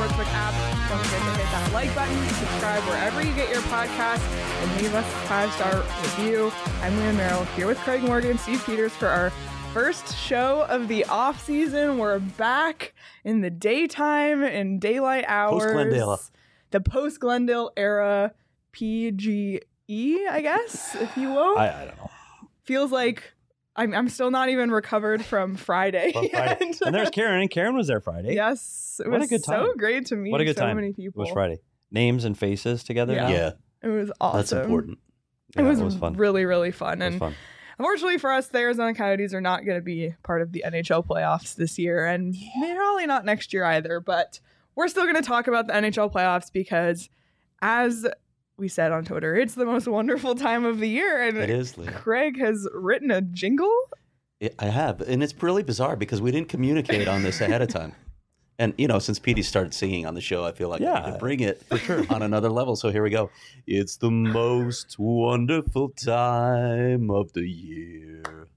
Sportsbook app. Don't forget to hit that like button, subscribe wherever you get your podcasts, and leave us a 5-star review. I'm Leah Merrill here with Craig Morgan and Steve Peters for our first show of the off season. We're back in the daytime in daylight hours. Post-Glendale. The post-Glendale era PGE, I guess, if you will. I don't know. Feels like I'm still not even recovered from Friday. Friday. yet. And there's Karen, and Karen was there Friday. Yes, it What a was good time. so great to meet What a good so time. many It people. was Friday. Names and faces together. Yeah. now? Yeah, It was awesome. that's important. It Yeah, was fun. really, really fun. It was And fun. unfortunately for us, the Arizona Coyotes are not going to be part of the NHL playoffs this year, and probably not next year either. But we're still going to talk about the NHL playoffs because, as we said on Twitter, it's the most wonderful time of the year. And It is, Leah. Craig has written a jingle. I have, and it's really bizarre because we didn't communicate on this ahead of time. And, you know, since Petey started singing on the show, I feel like I need to bring it for sure on another level. So here we go. It's the most wonderful time of the year.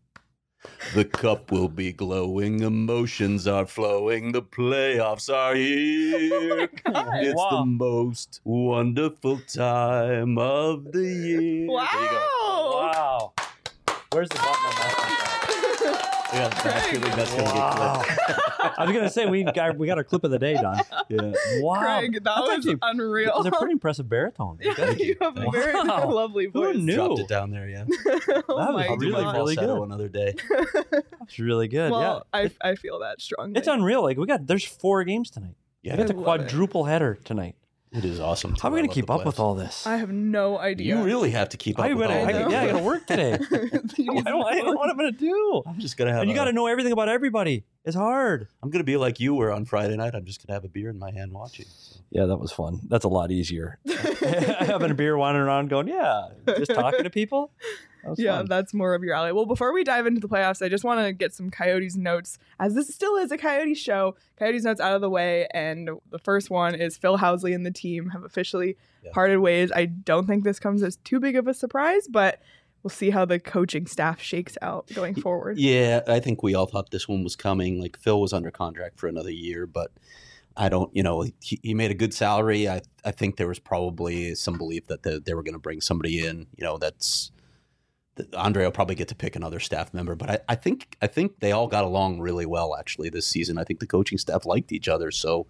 The cup will be glowing, emotions are flowing, the playoffs are here. God. It's the most wonderful time of the year. Wow. There you go. Wow. Where's the button on that? Yeah, that's going to get clipped. I was gonna say we got our clip of the day done. Yeah. Wow, Craig, that That's was actually- unreal. It was a pretty impressive baritone. Yeah, you have a very Wow. lovely voice. Who knew? Dropped it down there, yeah. Oh That was my I'll do my God. really falsetto good. another day. It's really good. Well, yeah, I feel that strongly. it's unreal. Like there's 4 games tonight. Yeah, We got the I love quadruple header tonight. it is awesome. How are we I gonna love keep the up with playoffs. all this? I have no idea. You really have to keep up I with all gotta, that. I gotta work today. I don't know what I'm gonna do. I'm just gonna have. And you got to know everything about everybody. It's hard. I'm gonna be like you were on Friday night. I'm just gonna have a beer in my hand watching. So. Yeah, that was fun. That's a lot easier. Having a beer, wandering around, going, yeah, just talking to people. That was Yeah, fun. that's more of your alley. Well, before we dive into the playoffs, I just want to get some Coyotes notes, as this still is a Coyotes show. Coyotes notes out of the way, and the first one is Phil Housley and the team have officially parted ways. I don't think this comes as too big of a surprise, but we'll see how the coaching staff shakes out going forward. Yeah, I think we all thought this one was coming. Like Phil was under contract for another year, but I don't. You know, he made a good salary. I think there was probably some belief that they were going to bring somebody in. You know, that's. Andre will probably get to pick another staff member, but I think they all got along really well actually this season. I think the coaching staff liked each other. So,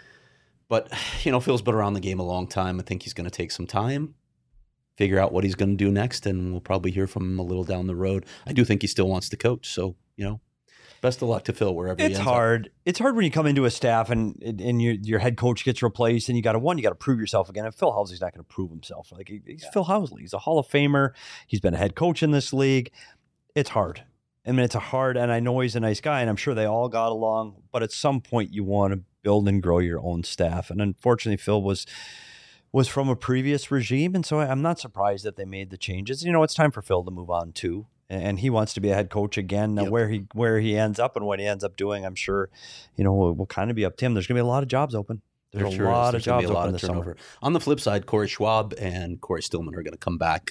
but you know, Phil's been around the game a long time. I think he's going to take some time, figure out what he's going to do next, and we'll probably hear from him a little down the road. I do think he still wants to coach, so you know, best of luck to Phil wherever he It's ends up. hard. It's hard when you come into a staff and your head coach gets replaced, and you got to prove yourself again. And Phil Housley's not going to prove himself. Like he's Phil Housley. He's a Hall of Famer. He's been a head coach in this league. It's hard. I mean, it's hard, and I know he's a nice guy, and I'm sure they all got along. But at some point, you want to build and grow your own staff. And unfortunately, Phil was from a previous regime, and so I'm not surprised that they made the changes. You know, it's time for Phil to move on too. And he wants to be a head coach again. Now, Yep. where he ends up and what he ends up doing, I'm sure, you know, will kind of be up to him. There's going to be a lot of jobs open. There's a lot of jobs open this summer. On the flip side, Corey Schwab and Corey Stillman are going to come back.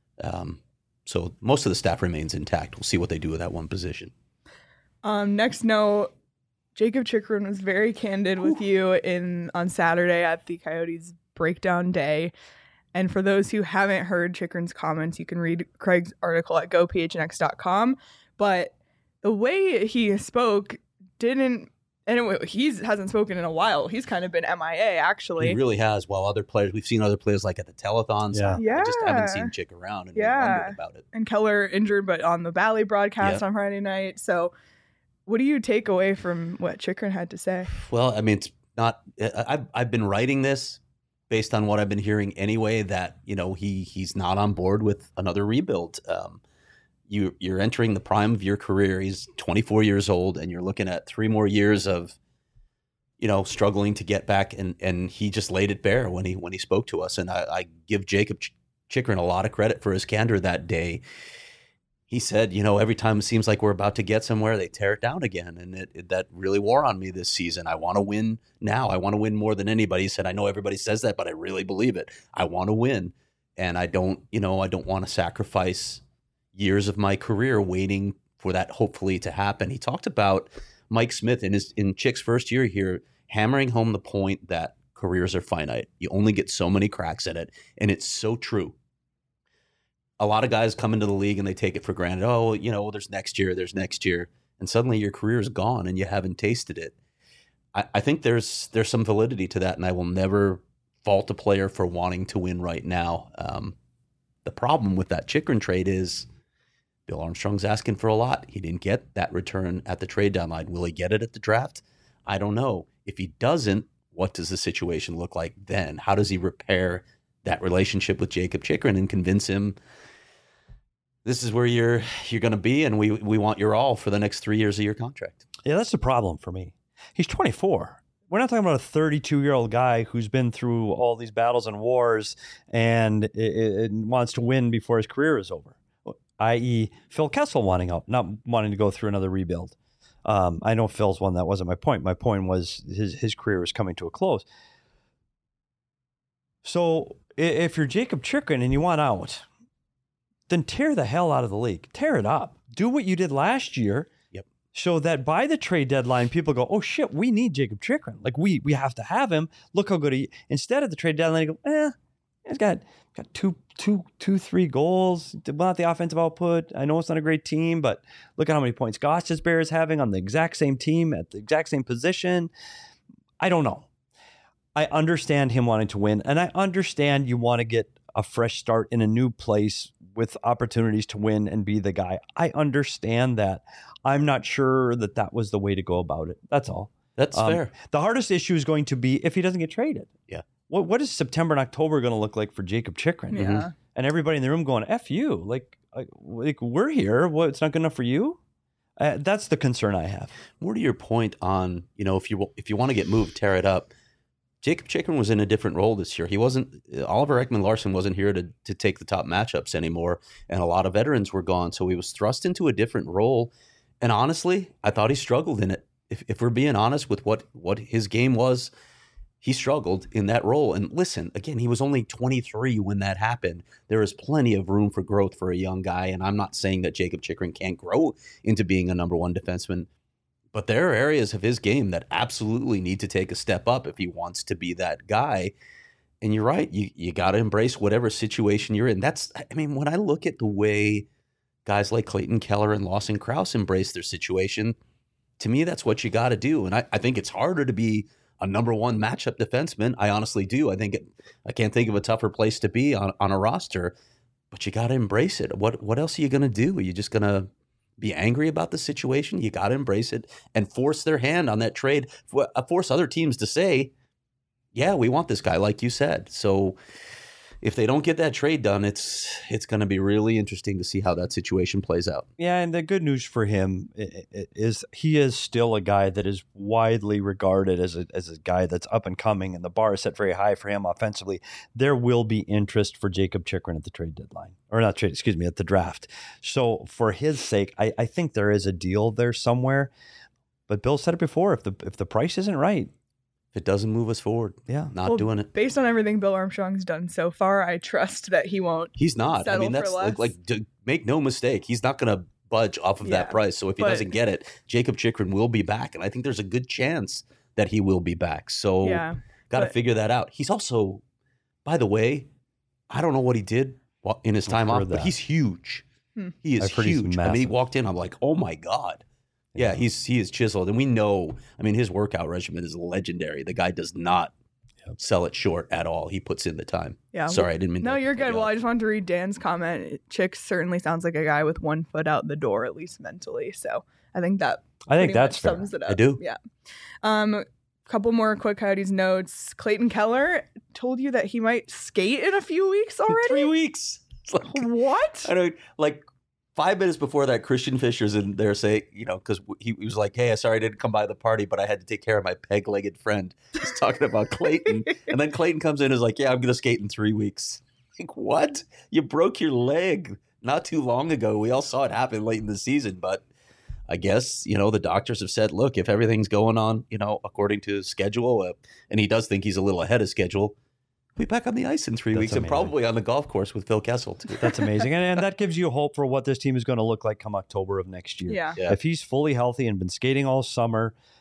So most of the staff remains intact. We'll see what they do with that one position. Next note, Jacob Chikrin was very candid with you on Saturday at the Coyotes breakdown day. And for those who haven't heard Chikrin's comments, you can read Craig's article at gophnx.com. But the way he spoke didn't, and he hasn't spoken in a while. He's kind of been MIA, actually. He really has. While other players, we've seen other players like at the telethons. Yeah. I just haven't Yeah. seen Chick around and Yeah. wondered about it. And Keller injured, but on the Valley broadcast on Friday night. So what do you take away from what Chikrin had to say? Well, I mean, it's not. I've been writing this based on what I've been hearing anyway. That you know he's not on board with another rebuild. You're entering the prime of your career. He's 24 years old, and you're looking at 3 more years of struggling to get back. And he just laid it bare when he spoke to us. And I give Jacob Chikrin a lot of credit for his candor that day. He said, every time it seems like we're about to get somewhere, they tear it down again. And that really wore on me this season. I want to win now. I want to win more than anybody. He said, I know everybody says that, but I really believe it. I want to win. And I don't want to sacrifice years of my career waiting for that hopefully to happen. He talked about Mike Smith in Chick's first year here. hammering home the point that careers are finite. You only get so many cracks at it, and it's so true. A lot of guys come into the league and they take it for granted. Oh, there's next year, and suddenly your career is gone and you haven't tasted it. I think there's some validity to that, and I will never fault a player for wanting to win right now. The problem with that Chychrun trade is Bill Armstrong's asking for a lot. He didn't get that return at the trade deadline. Will he get it at the draft? I don't know. If he doesn't, what does the situation look like then? How does he repair that relationship with Jakob Chychrun and convince him this is where you're going to be, and we want your all for the next 3 years of your contract? Yeah, that's the problem for me. He's 24. We're not talking about a 32-year-old guy who's been through all these battles and wars and it wants to win before his career is over, i.e. Phil Kessel wanting out, not wanting to go through another rebuild. I know Phil's one. That wasn't my point. My point was his career was coming to a close. So if you're Jakob Chychrun and you want out, then tear the hell out of the league. Tear it up. Do what you did last year. Yep. So that by the trade deadline, people go, oh shit, we need Jakob Chychrun. Like we have to have him. Look how good he. Instead of the trade deadline, you go, he's got three goals. Not the offensive output. I know it's not a great team, but look at how many points Gostisbehere is having on the exact same team at the exact same position. I don't know. I understand him wanting to win, and I understand you want to get a fresh start in a new place with opportunities to win and be the guy. I understand that. I'm not sure that was the way to go about it. That's all. That's fair. The hardest issue is going to be if he doesn't get traded. Yeah. What is September and October going to look like for Jakob Chychrun? Yeah. Mm-hmm. And everybody in the room going, F you. Like we're here. What, it's not good enough for you? That's the concern I have. More to your point on, if you want to get moved, tear it up. Jakob Chychrun was in a different role this year. He wasn't. Oliver Ekman-Larsson wasn't here to take the top matchups anymore, and a lot of veterans were gone. So he was thrust into a different role. And honestly, I thought he struggled in it. If we're being honest with what his game was, he struggled in that role. And listen, again, he was only 23 when that happened. There is plenty of room for growth for a young guy, and I'm not saying that Jakob Chychrun can't grow into being a number one defenseman. But there are areas of his game that absolutely need to take a step up if he wants to be that guy. And you're right. You got to embrace whatever situation you're in. When I look at the way guys like Clayton Keller and Lawson Crouse embrace their situation, to me, that's what you got to do. And I think it's harder to be a number one matchup defenseman. I honestly do. I can't think of a tougher place to be on a roster, but you got to embrace it. What else are you going to do? Are you just going to be angry about the situation? You got to embrace it and force their hand on that trade. Force other teams to say, yeah, we want this guy, like you said. So if they don't get that trade done, it's going to be really interesting to see how that situation plays out. Yeah, and the good news for him is he is still a guy that is widely regarded as a guy that's up and coming, and the bar is set very high for him offensively. There will be interest for Jakob Chychrun at the trade deadline. Or not trade, excuse me, at the draft. So for his sake, I think there is a deal there somewhere. But Bill said it before, if the price isn't right, if it doesn't move us forward, not doing it. Based on everything Bill Armstrong's done so far, I trust that he won't. He's not. That's make no mistake. He's not going to budge off of that price. So if he doesn't get it, Jakob Chychrun will be back. And I think there's a good chance that he will be back. So got to figure that out. He's also, by the way, I don't know what he did in his time off, but he's huge. He is huge. He walked in, I'm like, oh my God. Yeah, he is chiseled. And we know, his workout regimen is legendary. The guy does not sell it short at all. He puts in the time. Yeah. Sorry, I didn't mean No, you're good. Well, I just wanted to read Dan's comment. Chick certainly sounds like a guy with one foot out the door, at least mentally. So I think that's fair. Sums it up. I do. Yeah. Couple more quick Coyotes notes. Clayton Keller told you that he might skate in a few weeks already? 3 weeks. It's like, what? I don't, 5 minutes before that, Christian Fischer's in there saying, because he was like, hey, sorry I didn't come by the party, but I had to take care of my peg-legged friend. He's talking about Clayton. And then Clayton comes in and is like, yeah, I'm going to skate in 3 weeks. Like, what? You broke your leg not too long ago. We all saw it happen late in the season, but I guess, the doctors have said, look, if everything's going on, according to schedule, and he does think he's a little ahead of schedule, be back on the ice in 3 weeks. Amazing. And probably on the golf course with Phil Kessel too. That's amazing. And that gives you hope for what this team is going to look like come October of next year. Yeah. If he's fully healthy and been skating all summer,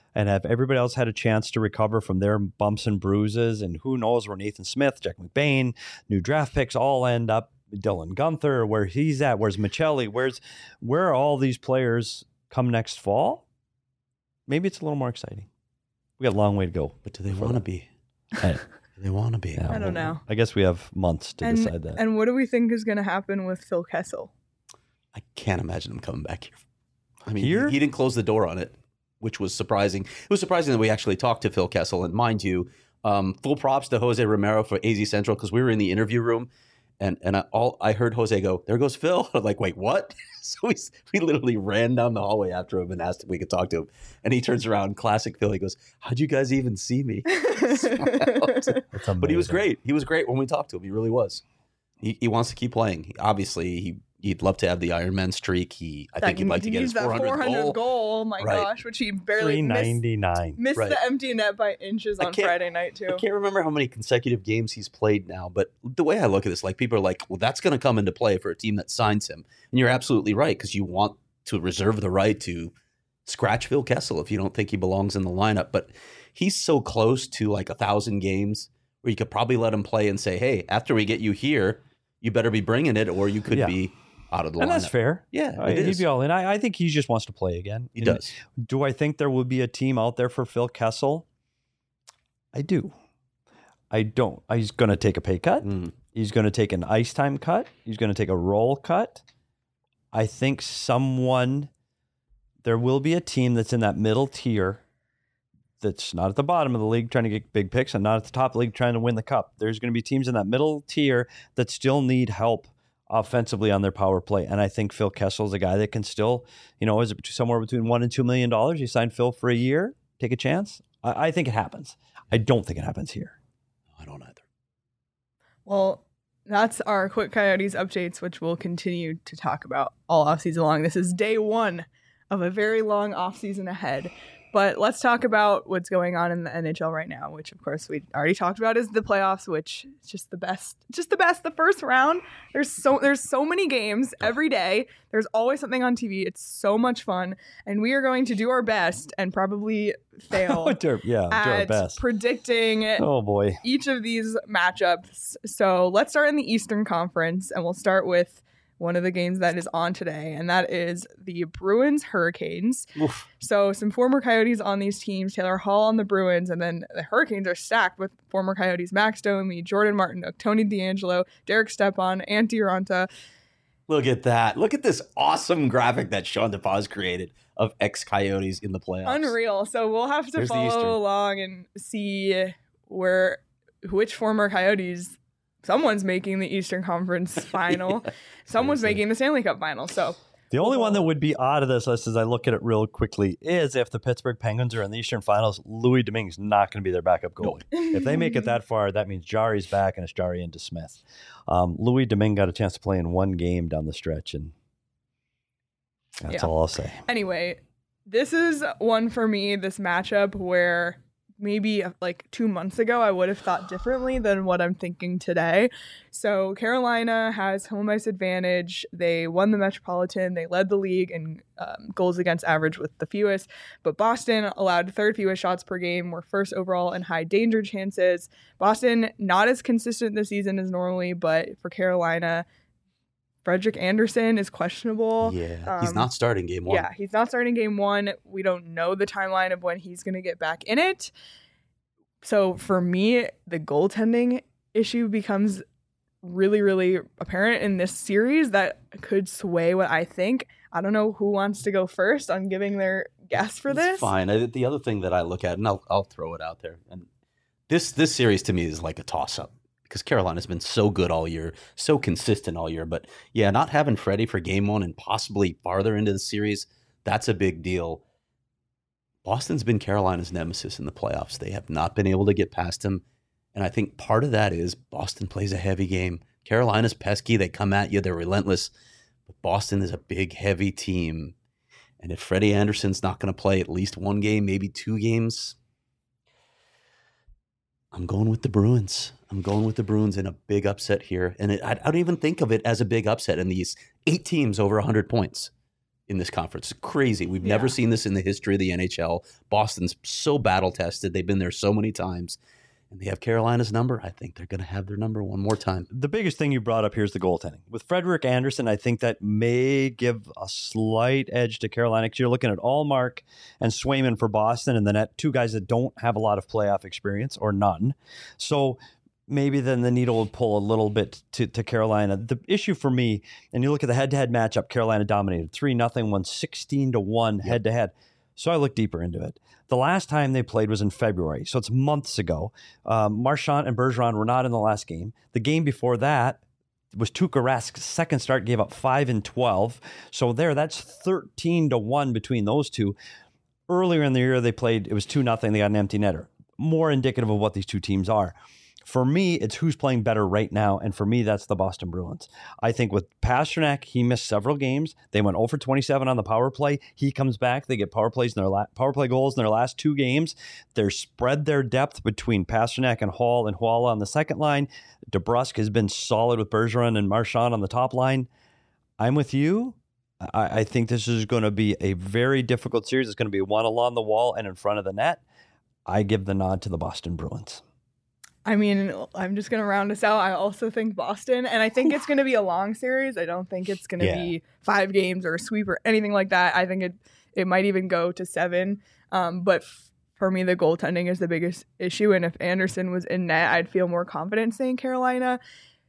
and have everybody else had a chance to recover from their bumps and bruises, and who knows where Nathan Smith, Jack McBain, new draft picks all end up, Dylan Gunther, where he's at, where's Michelli, where are all these players come next fall? Maybe it's a little more exciting. We got a long way to go. But do they want to be? Do they want to be? Yeah, I don't know. I guess we have months to decide that. And what do we think is going to happen with Phil Kessel? I can't imagine him coming back here. I mean, Here? he didn't close the door on it, which was surprising. It was surprising that we actually talked to Phil Kessel. And mind you, full props to Jose Romero for AZ Central, because we were in the interview room. And I heard Jose go, "There goes Phil." I'm like, "Wait, what?" So we literally ran down the hallway after him and asked if we could talk to him. And he turns around, classic Phil. He goes, "How'd you guys even see me?" But he was great. He was great when we talked to him. He really was. He wants to keep playing. Obviously, he'd love to have the Ironman streak. I think he'd like to get his 400th goal. Oh my Right. gosh, which he barely 399. missed Right. the empty net by inches on Friday night too. I can't remember how many consecutive games he's played now, but the way I look at this, like, people are like, well, that's going to come into play for a team that signs him. And you're absolutely right, because you want to reserve the right to scratch Phil Kessel if you don't think he belongs in the lineup. But he's so close to like 1,000 games where you could probably let him play and say, hey, after we get you here, you better be bringing it, or you could be out of the lineup. And that's fair. Yeah, He'd be all in. I think he just wants to play again. He does. Do I think there will be a team out there for Phil Kessel? I do. I don't. He's going to take a pay cut. He's going to take an ice time cut. He's going to take a role cut. I think there will be a team that's in that middle tier that's not at the bottom of the league trying to get big picks and not at the top of the league trying to win the cup. There's going to be teams in that middle tier that still need help offensively on their power play. And I think Phil Kessel is a guy that can still, is it somewhere between $1 and $2 million? You sign Phil for a year, take a chance. I think it happens. I don't think it happens here. I don't either. Well, that's our Quick Coyotes updates, which we'll continue to talk about all offseason long. This is day one of a very long offseason ahead. But let's talk about what's going on in the NHL right now, which, of course, we already talked about, is the playoffs, which is just the best. Just the best. The first round, there's so many games every day. There's always something on TV. It's so much fun. And we are going to do our best and probably fail do our best predicting each of these matchups. So let's start in the Eastern Conference, and we'll start with one of the games that is on today, and that is the Bruins Hurricanes. Oof. So some former Coyotes on these teams, Taylor Hall on the Bruins, and then the Hurricanes are stacked with former Coyotes Max Domi, Jordan Martinook, Tony DeAngelo, Derek Stepan, Antti Raanta. Look at that. Look at this awesome graphic that Sean DePaz created of ex-Coyotes in the playoffs. Unreal. So we'll have to follow along and see which former Coyotes. Someone's making the Eastern Conference final. Someone's making the Stanley Cup final. So the only one that would be out of this list, as I look at it real quickly, is if the Pittsburgh Penguins are in the Eastern Finals, Louis Domingue's not going to be their backup goalie. If they make it that far, that means Jari's back and it's Jari into Smith. Louis Domingue got a chance to play in one game down the stretch, and that's all I'll say. Anyway, this is one for me, this matchup where maybe like 2 months ago, I would have thought differently than what I'm thinking today. So Carolina has home ice advantage. They won the Metropolitan. They led the league in goals against average with the fewest. But Boston allowed third fewest shots per game, were first overall in high danger chances. Boston, not as consistent this season as normally, but for Carolina, Frederik Andersen is questionable. Yeah, he's not starting game one. Yeah, he's not starting game one. We don't know the timeline of when he's going to get back in it. So for me, the goaltending issue becomes really, really apparent in this series that could sway what I think. I don't know who wants to go first on giving their guess for this. It's fine. The other thing that I look at, and I'll throw it out there, and this series to me is like a toss-up. Because Carolina's been so good all year, so consistent all year. But yeah, not having Freddie for game one and possibly farther into the series, that's a big deal. Boston's been Carolina's nemesis in the playoffs. They have not been able to get past him. And I think part of that is Boston plays a heavy game. Carolina's pesky. They come at you. They're relentless. But Boston is a big, heavy team. And if Freddie Andersen's not going to play at least one game, maybe 2 games, I'm going with the Bruins. I'm going with the Bruins in a big upset here. And I don't even think of it as a big upset in these 8 teams over 100 points. in this conference. It's crazy. We've never seen this in the history of the NHL. Boston's so battle tested. They've been there so many times. And they have Carolina's number. I think they're going to have their number one more time. The biggest thing you brought up here is the goaltending. With Frederik Andersen, I think that may give a slight edge to Carolina because you're looking at Allmark and Swayman for Boston and the net, two guys that don't have a lot of playoff experience or none. So maybe then the needle will pull a little bit to Carolina. The issue for me, and you look at the head-to-head matchup, Carolina dominated 3-0, won 16-1 head-to-head. So I looked deeper into it. The last time they played was in February, so it's months ago. Marchand and Bergeron were not in the last game. The game before that was Tuukka Rask's second start, gave up 5-12. So that's 13-1 between those two. Earlier in the year they played, it was 2-0. They got an empty netter. More indicative of what these two teams are. For me, it's who's playing better right now, and for me, that's the Boston Bruins. I think with Pastrnak, he missed several games. They went 0 for 27 on the power play. He comes back. They get power play goals in their last two games. They're spread their depth between Pastrnak and Hall and Huala on the second line. DeBrusk has been solid with Bergeron and Marchand on the top line. I'm with you. I think this is going to be a very difficult series. It's going to be one along the wall and in front of the net. I give the nod to the Boston Bruins. I mean, I'm just going to round us out. I also think Boston, and I think it's going to be a long series. I don't think it's going to be 5 games or a sweep or anything like that. I think it might even go to 7. But for me, the goaltending is the biggest issue. And if Andersen was in net, I'd feel more confident saying Carolina.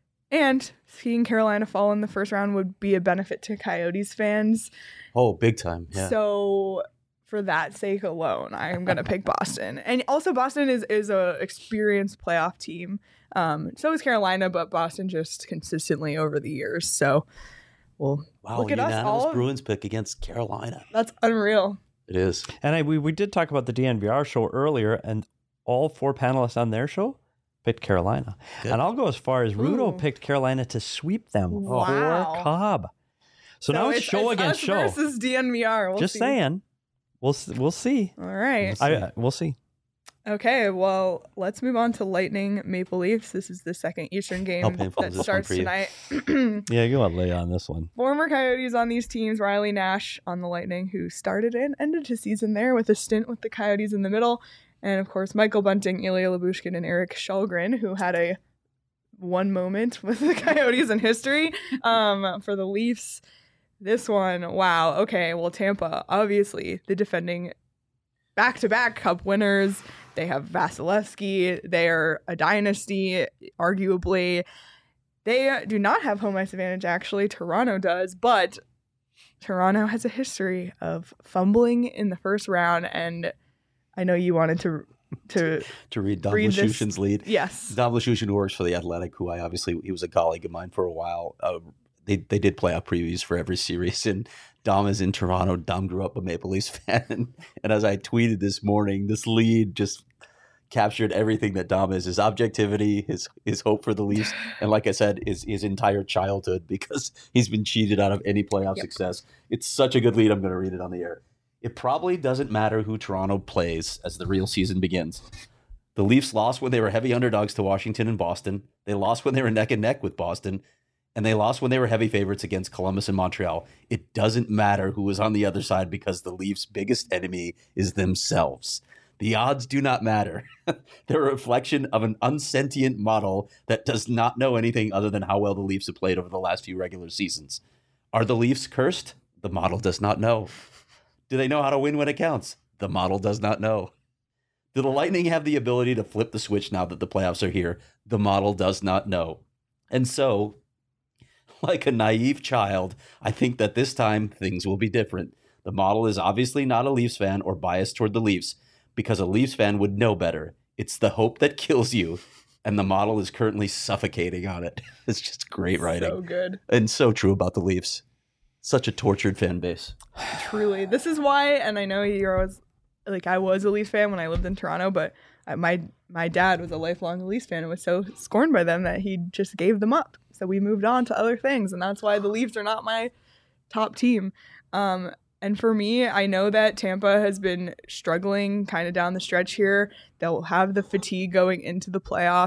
And seeing Carolina fall in the first round would be a benefit to Coyotes fans. Oh, big time. Yeah. So for that sake alone, I am going to pick Boston. And also Boston is a experienced playoff team. So is Carolina, but Boston just consistently over the years. So look at us all. Bruins pick against Carolina. That's unreal. It is. And we did talk about the DNVR show earlier, and all 4 panelists on their show picked Carolina. Good. And I'll go as far as Rudo picked Carolina to sweep them for Cobb. So now it's show against show. Versus DNVR. Just saying. We'll see. All right. We'll see. Okay, well, let's move on to Lightning Maple Leafs. This is the second Eastern game that starts tonight. Yeah, you want to lay on this one. Former Coyotes on these teams, Riley Nash on the Lightning, who started and ended his season there with a stint with the Coyotes in the middle. And, of course, Michael Bunting, Ilya Lyubushkin, and Eric Källgren, who had one moment with the Coyotes in history for the Leafs. This one, wow. Okay, well, Tampa, obviously, the defending back-to-back Cup winners. They have Vasilevsky. They're a dynasty, arguably. They do not have home ice advantage, actually. Toronto does, but Toronto has a history of fumbling in the first round, and I know you wanted to read Dom Luszczyszyn's lead. Yes. Dom Luszczyszyn works for The Athletic, who he was a colleague of mine for a while. They did playoff previews for every series, and Dom is in Toronto. Dom grew up a Maple Leafs fan, and as I tweeted this morning, this lead just captured everything that Dom is: his objectivity, his hope for the Leafs, and like I said, his entire childhood, because he's been cheated out of any playoff success. It's such a good lead. I'm going to read it on the air. It probably doesn't matter who Toronto plays as the real season begins. The Leafs lost when they were heavy underdogs to Washington and Boston. They lost when they were neck and neck with Boston. And they lost when they were heavy favorites against Columbus and Montreal. It doesn't matter who was on the other side because the Leafs' biggest enemy is themselves. The odds do not matter. They're a reflection of an unsentient model that does not know anything other than how well the Leafs have played over the last few regular seasons. Are the Leafs cursed? The model does not know. Do they know how to win when it counts? The model does not know. Do the Lightning have the ability to flip the switch now that the playoffs are here? The model does not know. And so, like a naive child, I think that this time things will be different. The model is obviously not a Leafs fan or biased toward the Leafs, because a Leafs fan would know better. It's the hope that kills you, and the model is currently suffocating on it. It's just great writing. So good. And so true about the Leafs. Such a tortured fan base. Truly. This is why, and I know you're always, I was a Leafs fan when I lived in Toronto, but my dad was a lifelong Leafs fan and was so scorned by them that he just gave them up. So we moved on to other things, and that's why the Leafs are not my top team. And for me, I know that Tampa has been struggling kind of down the stretch here. They'll have the fatigue going into the playoffs.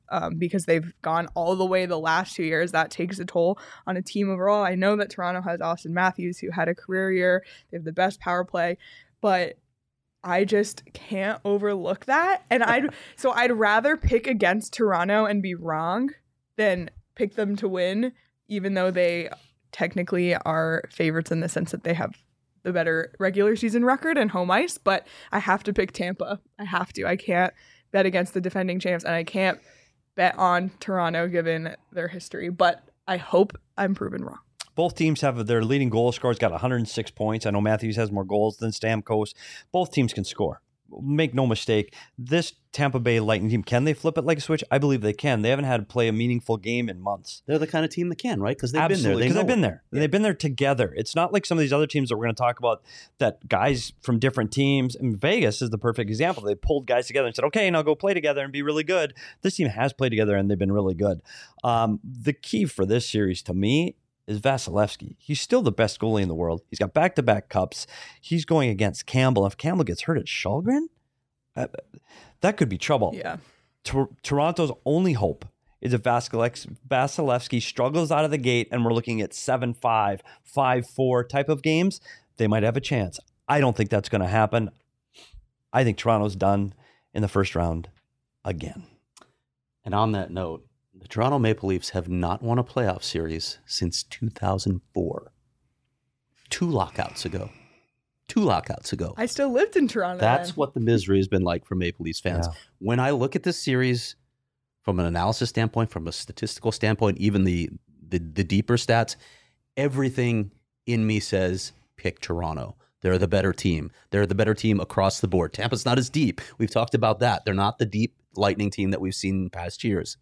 because they've gone all the way the last 2 years. That takes a toll on a team overall. I know that Toronto has Austin Matthews, who had a career year. They have the best power play, but I just can't overlook that. And I'd rather pick against Toronto and be wrong than pick them to win, even though they technically are favorites in the sense that they have the better regular season record and home ice. But I have to pick Tampa. I have to. I can't bet against the defending champs, and I can't bet on Toronto given their history. But I hope I'm proven wrong. Both teams have their leading goal scorers got 106 points. I know Matthews has more goals than Stamkos. Both teams can score. Make no mistake, this Tampa Bay Lightning team, can they flip it like a switch? I believe they can. They haven't had to play a meaningful game in months. They're the kind of team that can, right? Because they've Absolutely, been there. Because they've been there. Yeah. They've been there together. It's not like some of these other teams that we're going to talk about that guys from different teams. And Vegas is the perfect example. They pulled guys together and said, okay, now go play together and be really good. This team has played together and they've been really good. The key for this series to me is Vasilevsky. He's still the best goalie in the world. He's got back-to-back cups. He's going against Campbell. If Campbell gets hurt at Shalgren, that could be trouble. Yeah. Toronto's only hope is if Vasilevsky struggles out of the gate and we're looking at 7-5, 5-4 type of games, they might have a chance. I don't think that's going to happen. I think Toronto's done in the first round again. And on that note, the Toronto Maple Leafs have not won a playoff series since 2004. 2 lockouts ago. I still lived in Toronto. That's then. what the misery has been like for Maple Leafs fans. Yeah. When I look at this series from an analysis standpoint, from a statistical standpoint, even the deeper stats, everything in me says pick Toronto. They're the better team. They're the better team across the board. Tampa's not as deep. We've talked about that. They're not the deep Lightning team that we've seen in past years.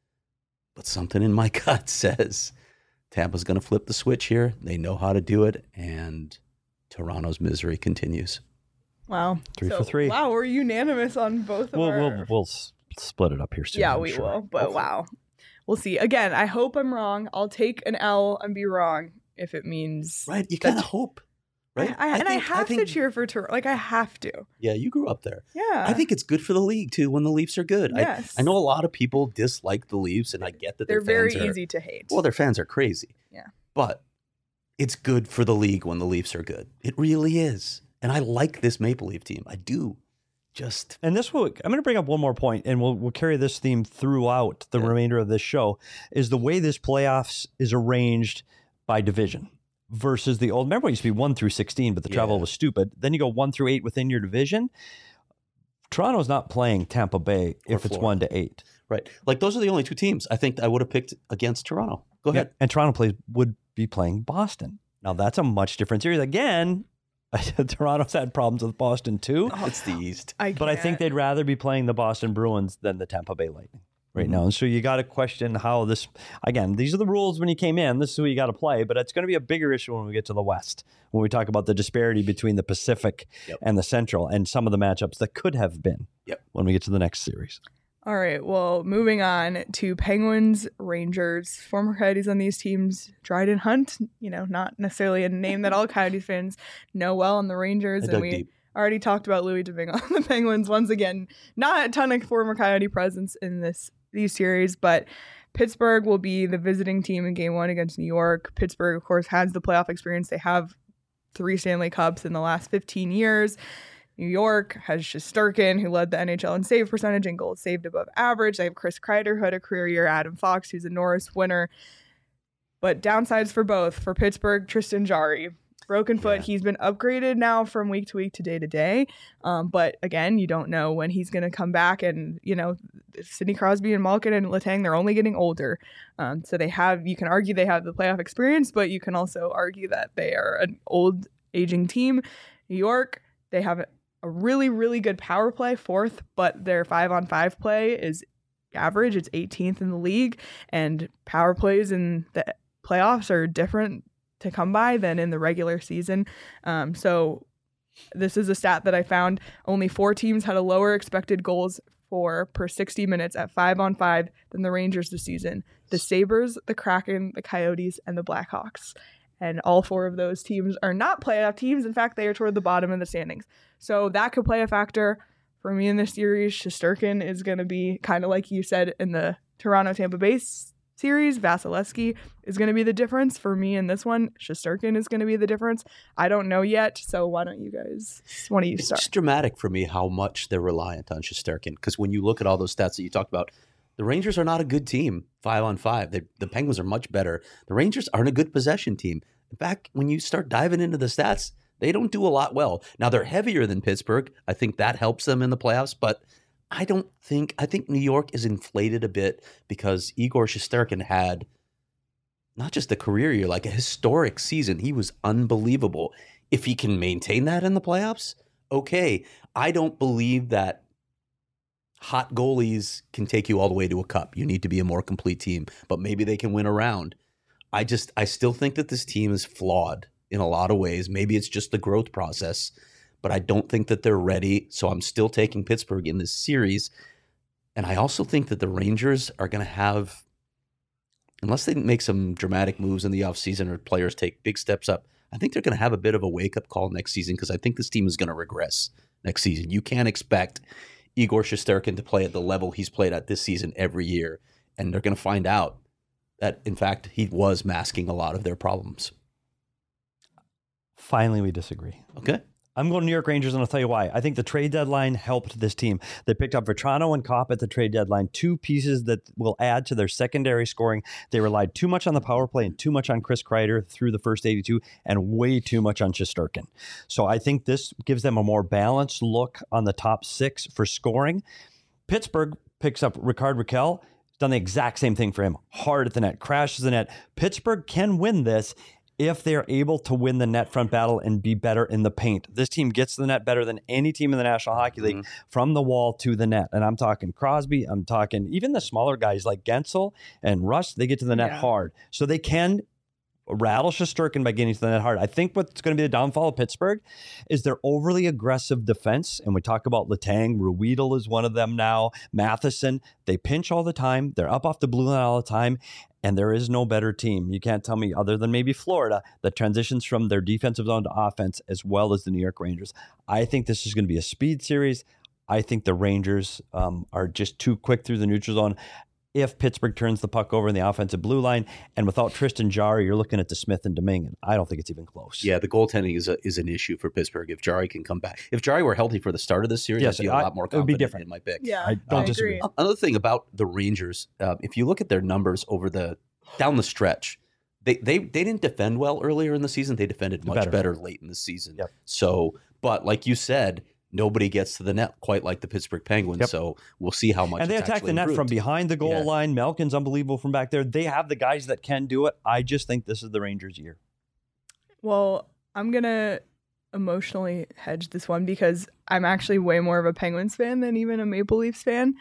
But something in my gut says Tampa's going to flip the switch here. They know how to do it, and Toronto's misery continues. Wow. 3 for 3. Wow, we're unanimous on both of our... We'll split it up here soon. Yeah, I'm we sure. will. But wow. We'll see. Again, I hope I'm wrong. I'll take an L and be wrong if it means... Right? You kind of hope, right? I have to cheer for Toronto. Like, I have to. Yeah, you grew up there. Yeah. I think it's good for the league, too, when the Leafs are good. Yes. I know a lot of people dislike the Leafs, and I get that they're their fans very are... easy to hate. Well, their fans are crazy. Yeah. But it's good for the league when the Leafs are good. It really is. And I like this Maple Leaf team. I do. And this will, I'm going to bring up one more point, and we'll carry this theme throughout the remainder of this show, is the way this playoffs is arranged by division versus the old. Remember, it used to be 1 through 16, but the travel was stupid. Then you go 1 through 8 within your division. Toronto's not playing Tampa Bay if it's 1 to 8. Right. Like, those are the only 2 teams I think I would have picked against Toronto. Go ahead. And Toronto would be playing Boston. Now, that's a much different series. Again, Toronto's had problems with Boston too. Oh, it's the East. But I think they'd rather be playing the Boston Bruins than the Tampa Bay Lightning right now. And so you got to question how this, again, these are the rules when you came in. This is who you got to play. But it's going to be a bigger issue when we get to the West, when we talk about the disparity between the Pacific and the Central and some of the matchups that could have been when we get to the next series. All right, well, moving on to Penguins, Rangers, former Coyotes on these teams, Dryden Hunt, not necessarily a name that all Coyotes fans know well on the Rangers. And we already talked about Louis Domingue on the Penguins. Once again, not a ton of former Coyote presence in these series, but Pittsburgh will be the visiting team in Game 1 against New York. Pittsburgh, of course, has the playoff experience. They have 3 Stanley Cups in the last 15 years. New York has Shesterkin, who led the NHL in save percentage and goals saved above average. They have Chris Kreider, who had a career year. Adam Fox, who's a Norris winner. But downsides for both. For Pittsburgh, Tristan Jarry. Broken foot. He's been upgraded now from week to week to day to day. But again, you don't know when he's going to come back. And, Sidney Crosby and Malkin and Letang, they're only getting older. So you can argue they have the playoff experience, but you can also argue that they are an old, aging team. New York, they have a really, really good power play, 4th, but their 5-on-5 play is average. It's 18th in the league, and power plays in the playoffs are different to come by than in the regular season. So this is a stat that I found. Only 4 teams had a lower expected goals per 60 minutes at 5-on-5 than the Rangers this season. The Sabres, the Kraken, the Coyotes, and the Blackhawks. And all 4 of those teams are not playoff teams. In fact, they are toward the bottom of the standings. So that could play a factor for me in this series. Shesterkin is going to be kind of like you said in the Toronto-Tampa Bay series. Vasilevsky is going to be the difference for me in this one. Shesterkin is going to be the difference. I don't know yet, so why don't you start? It's just dramatic for me how much they're reliant on Shesterkin, because when you look at all those stats that you talked about, the Rangers are not a good team 5-on-5. The Penguins are much better. The Rangers aren't a good possession team. In fact, when you start diving into the stats, they don't do a lot well. Now, they're heavier than Pittsburgh. I think that helps them in the playoffs, but I think New York is inflated a bit because Igor Shesterkin had not just a career year, like a historic season. He was unbelievable. If he can maintain that in the playoffs, okay. I don't believe that hot goalies can take you all the way to a cup. You need to be a more complete team, but maybe they can win a round. I still think that this team is flawed in a lot of ways. Maybe it's just the growth process, but I don't think that they're ready. So I'm still taking Pittsburgh in this series. And I also think that the Rangers are going to have, unless they make some dramatic moves in the offseason or players take big steps up, I think they're going to have a bit of a wake-up call next season, because I think this team is going to regress next season. You can't expect Igor Shesterkin to play at the level he's played at this season every year. And they're going to find out that, in fact, he was masking a lot of their problems. Finally, we disagree. Okay. I'm going to New York Rangers, and I'll tell you why. I think the trade deadline helped this team. They picked up Vetrano and Kopp at the trade deadline, two pieces that will add to their secondary scoring. They relied too much on the power play and too much on Chris Kreider through the first 82, and way too much on Shesterkin. So I think this gives them a more balanced look on the top six for scoring. Pittsburgh picks up Rickard Rakell. Done the exact same thing for him. Hard at the net, crashes the net. Pittsburgh can win this if they're able to win the net front battle and be better in the paint. This team gets to the net better than any team in the National Hockey League from the wall to the net. And I'm talking Crosby. I'm talking even the smaller guys like Gensel and Rust. They get to the net hard. So they can rattle Shesterkin by getting to the net hard. I think what's going to be the downfall of Pittsburgh is their overly aggressive defense. And we talk about Letang. Ruedel is one of them now. Matheson. They pinch all the time. They're up off the blue line all the time. And there is no better team. You can't tell me, other than maybe Florida, that transitions from their defensive zone to offense as well as the New York Rangers. I think this is going to be a speed series. I think the Rangers are just too quick through the neutral zone. If Pittsburgh turns the puck over in the offensive blue line, and without Tristan Jarry, you're looking at DeSmith and Domingue. I don't think it's even close. Yeah, the goaltending is an issue for Pittsburgh. If Jarry can come back, if Jarry were healthy for the start of this series, I'd be a lot more confident. It would be different in my pick. Yeah, I don't disagree. agree. Another thing about the Rangers, if you look at their numbers over down the stretch, they didn't defend well earlier in the season. They defended much better late in the season. Yep. So, but like you said, nobody gets to the net quite like the Pittsburgh Penguins. Yep. So we'll see how much. And they attack the net improved from behind the goal line. Malkin's unbelievable from back there. They have the guys that can do it. I just think this is the Rangers' year. Well, I'm going to emotionally hedge this one because I'm actually way more of a Penguins fan than even a Maple Leafs fan.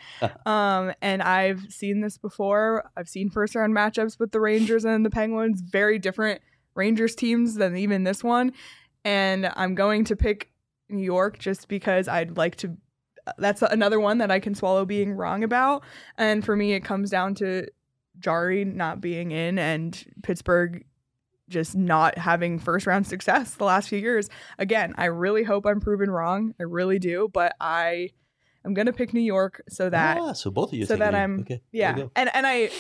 And I've seen this before. I've seen first round matchups with the Rangers and the Penguins, very different Rangers teams than even this one. And I'm going to pick New York just because I'd like to. That's another one that I can swallow being wrong about. And for me, it comes down to Jarry not being in and Pittsburgh just not having first round success the last few years. Again, I really hope I'm proven wrong. I really do, but I'm going to pick New York so that so both of you so that I'm okay. And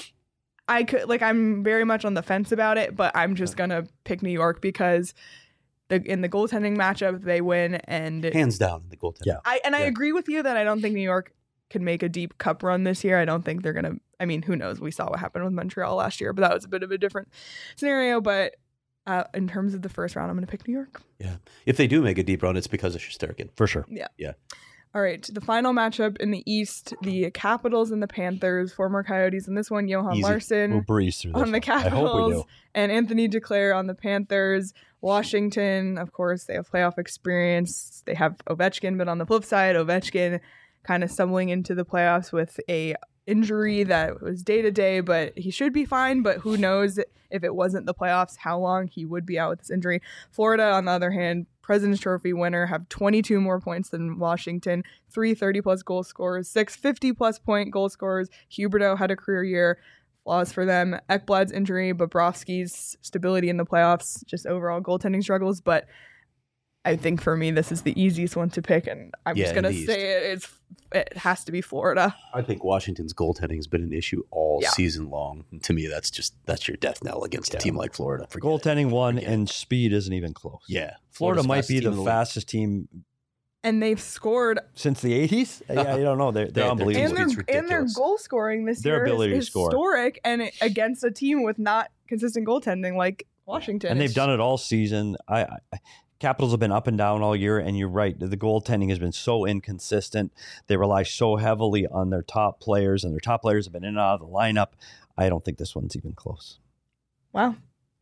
I could I'm very much on the fence about it, but I'm just going to pick New York because in the goaltending matchup they win and hands down in the goaltending. Yeah. I agree with you that I don't think New York can make a deep cup run this year. I don't think they're going to. I mean, who knows? We saw what happened with Montreal last year, but that was a bit of a different scenario. But in terms of the first round, I'm going to pick New York. Yeah. If they do make a deep run, it's because of Shesterkin. For sure. Yeah. All right. The final matchup in the East, the Capitals and the Panthers, former Coyotes. In this one, Johan Larsson we'll breeze through this on the Capitals. I hope we do. And Anthony Duclair on the Panthers. Washington, of course, they have playoff experience. They have Ovechkin, but on the flip side, Ovechkin kind of stumbling into the playoffs with a injury that was day-to-day, but he should be fine. But who knows if it wasn't the playoffs, how long he would be out with this injury. Florida, on the other hand, President's Trophy winner, have 22 more points than Washington, 3 30-plus goal scorers, 6 50-plus point goal scorers. Huberdeau had a career year. Flaws for them. Ekblad's injury, Bobrovsky's stability in the playoffs, just overall goaltending struggles. But I think for me, this is the easiest one to pick, and I'm Yeah, just gonna in the say it has to be Florida. I think Washington's goaltending has been an issue all Yeah. season long. And to me, that's your death knell against a team like Florida. Forget it. Goaltending one, Forget it. and speed isn't even close. Yeah, Florida Florida's might fastest be team the in league. fastest team And they've scored, since the 80s. Yeah, you don't know. They're Their unbelievable. and It's their ridiculous. goal scoring this Their year ability to is score. historic, and against a team with not consistent goaltending like Washington. And they've done it all season. Capitals have been up and down all year, and you're right. The goaltending has been so inconsistent. They rely so heavily on their top players, and their top players have been in and out of the lineup. I don't think this one's even close. Wow,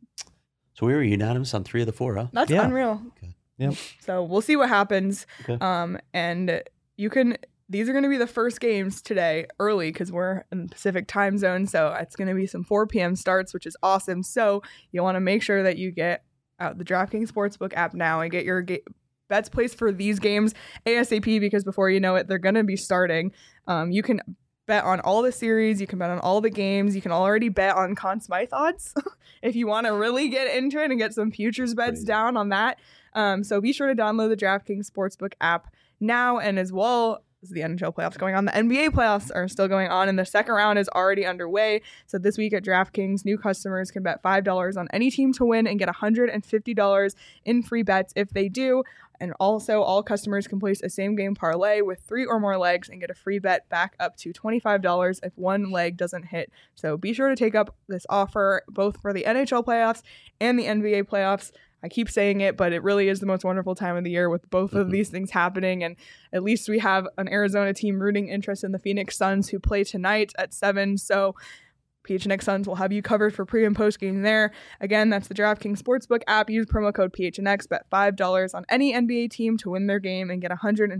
So we were unanimous on 3 of the 4, huh? that's Yeah. unreal. Okay. Yep. So we'll see what happens. Okay. And these are going to be the first games today early because we're in the Pacific time zone. So it's going to be some 4 p.m. starts, which is awesome. So you want to make sure that you get out the DraftKings Sportsbook app now and get your bets placed for these games ASAP, because before you know it, they're going to be starting. You can bet on all the series. You can bet on all the games. You can already bet on Conn Smythe odds if you want to really get into it and get some futures bets Crazy. down on that. So be sure to download the DraftKings Sportsbook app now, and as well as the NHL playoffs going on, the NBA playoffs are still going on, and the second round is already underway. So this week at DraftKings, new customers can bet $5 on any team to win and get $150 in free bets if they do. And also, all customers can place a same-game parlay with 3 or more legs and get a free bet back up to $25 if one leg doesn't hit. So be sure to take up this offer both for the NHL playoffs and the NBA playoffs. I keep saying it, but it really is the most wonderful time of the year with both of these things happening. And at least we have an Arizona team rooting interest in the Phoenix Suns, who play tonight at 7. So PHNX Suns will have you covered for pre and post game there. Again, that's the DraftKings Sportsbook app. Use promo code PHNX. Bet $5 on any NBA team to win their game and get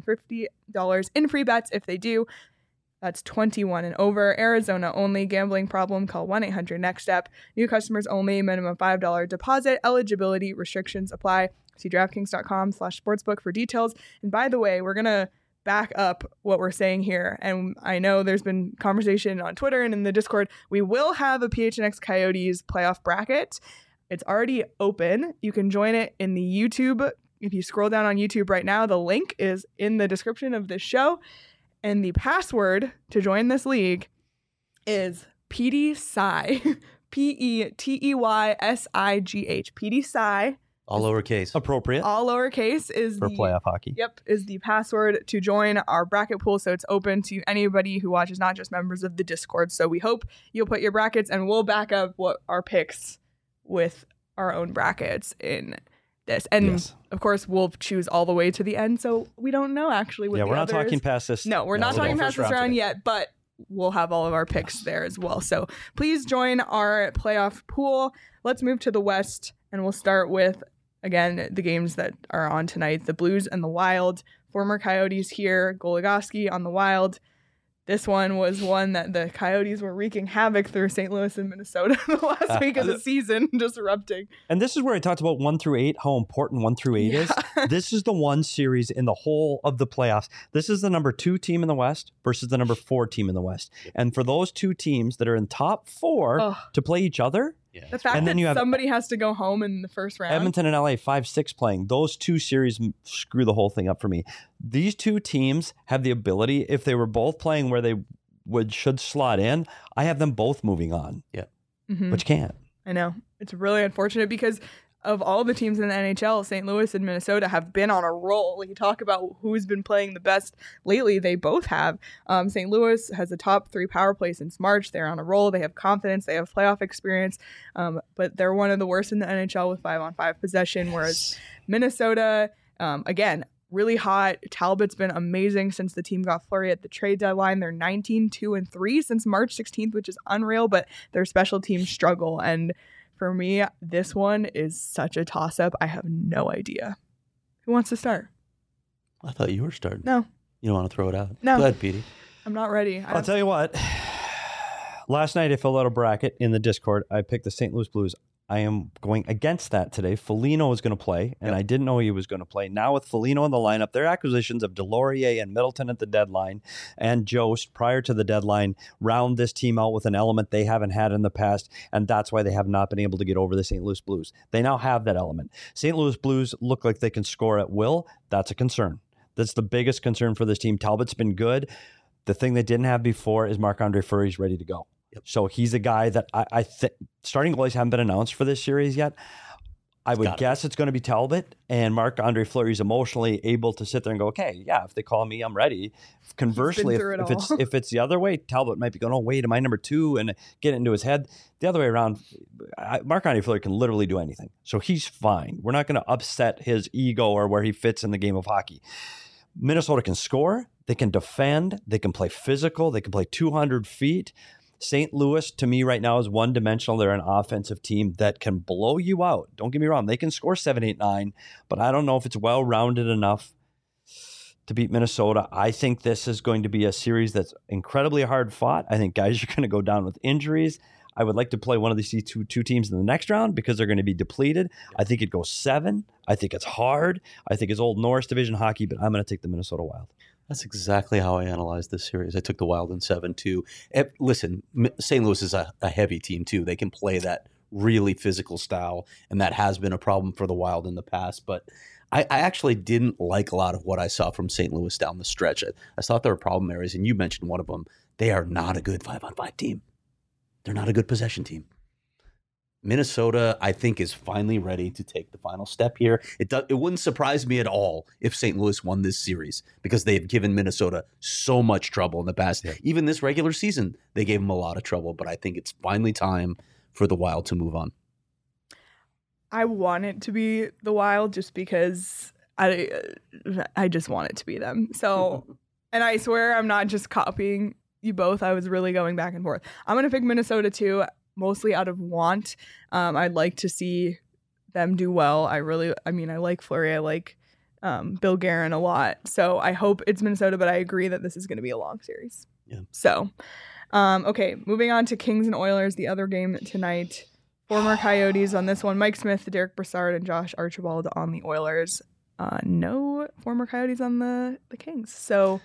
$150 in free bets if they do. That's 21 and over. Arizona only. Gambling problem? Call 1-800-NEXT-STEP. New customers only. Minimum $5 deposit. Eligibility restrictions apply. See DraftKings.com/sportsbook for details. And by the way, we're going to back up what we're saying here. And I know there's been conversation on Twitter and in the Discord. We will have a PHNX Coyotes playoff bracket. It's already open. You can join it in the YouTube. If you scroll down on YouTube right now, the link is in the description of this show. And the password to join this league is PDSIGH. PETEYSIGH. PDSIGH. All lowercase. Appropriate All lowercase is for the playoff hockey. Yep, is the password to join our bracket pool. So it's open to anybody who watches, not just members of the Discord. So we hope you'll put your brackets, and we'll back up what our picks with our own brackets in this. And Yes. of course, we'll choose all the way to the end. So we don't know actually what Yeah, the we're not others- talking past this. No, we're not today. talking past this round today. yet, but we'll have all of our picks there as well. So please join our playoff pool. Let's move to the West, and we'll start with, again, the games that are on tonight. The Blues and the Wild. Former Coyotes here. Goligoski on the Wild. This one was one that the Coyotes were wreaking havoc through St. Louis and Minnesota the last week of the season, disrupting. And this is where I talked about 1 through 8, how important 1 through 8 is. This is the one series in the whole of the playoffs. This is the number 2 team in the West versus the number 4 team in the West. And for those two teams that are in top 4 Ugh. to play each other, Yeah. The fact And then that you have somebody has to go home in the first round. Edmonton and LA 5-6 playing, those two series screw the whole thing up for me. These two teams have the ability, if they were both playing where they should slot in, I have them both moving on, Mhm. but you can't. I know. It's really unfortunate because of all the teams in the NHL, St. Louis and Minnesota have been on a roll. You talk about who's been playing the best lately. They both have. St. Louis has a top 3 power play since March. They're on a roll. They have confidence. They have playoff experience. But they're one of the worst in the NHL with 5-on-5 possession, whereas Minnesota, again, really hot. Talbot's been amazing since the team got Fleury at the trade deadline. They're 19-2-3 since March 16th, which is unreal, but their special teams struggle. And for me, this one is such a toss-up. I have no idea. Who wants to start? I thought you were starting. No, You don't want to throw it out? No. Go ahead, Petey. I'm not ready. I'll tell you what. Last night I filled out a bracket in the Discord. I picked the St. Louis Blues. I am going against that today. Foligno is going to play, and Yep. I didn't know he was going to play. Now with Foligno in the lineup, their acquisitions of Delorier and Middleton at the deadline and Jost prior to the deadline round this team out with an element they haven't had in the past, and that's why they have not been able to get over the St. Louis Blues. They now have that element. St. Louis Blues look like they can score at will. That's a concern. That's the biggest concern for this team. Talbot's been good. The thing they didn't have before is Marc-Andre Fleury's ready to go. Yep. So he's a guy that I think starting goalies haven't been announced for this series yet. I would guess it's going to be Talbot, and Marc-Andre Fleury's emotionally able to sit there and go, okay, yeah, if they call me, I'm ready. Conversely, if it's the other way, Talbot might be going, oh, wait, am I number 2? And get it into his head. The other way around, Marc-Andre Fleury can literally do anything. So he's fine. We're not going to upset his ego or where he fits in the game of hockey. Minnesota can score. They can defend. They can play physical. They can play 200 feet. St. Louis, to me right now, is one-dimensional. They're an offensive team that can blow you out. Don't get me wrong. They can score 7, 8, 9, but I don't know if it's well-rounded enough to beat Minnesota. I think this is going to be a series that's incredibly hard fought. I think guys are going to go down with injuries. I would like to play one of these two teams in the next round because they're going to be depleted. I think it goes 7. I think it's hard. I think it's old Norris Division hockey, but I'm going to take the Minnesota Wild. That's exactly how I analyzed this series. I took the Wild in 7 too. Listen, St. Louis is a heavy team too. They can play that really physical style, and that has been a problem for the Wild in the past. But I actually didn't like a lot of what I saw from St. Louis down the stretch. I thought there were problem areas, and you mentioned one of them. They are not a good 5-on-5 team. They're not a good possession team. Minnesota, I think, is finally ready to take the final step here. It wouldn't surprise me at all if St. Louis won this series because they've given Minnesota so much trouble in the past. Yeah. Even this regular season, they gave them a lot of trouble, but I think it's finally time for the Wild to move on. I want it to be the Wild just because I just want it to be them. So, and I swear I'm not just copying you both. I was really going back and forth. I'm going to pick Minnesota too. Mostly out of want. I'd like to see them do well. I like Fleury. I like Bill Guerin a lot. So I hope it's Minnesota, but I agree that this is going to be a long series. Yeah. So, okay, moving on to Kings and Oilers, the other game tonight. Former Coyotes on this one. Mike Smith, Derek Brassard, and Josh Archibald on the Oilers. No former Coyotes on the Kings. So,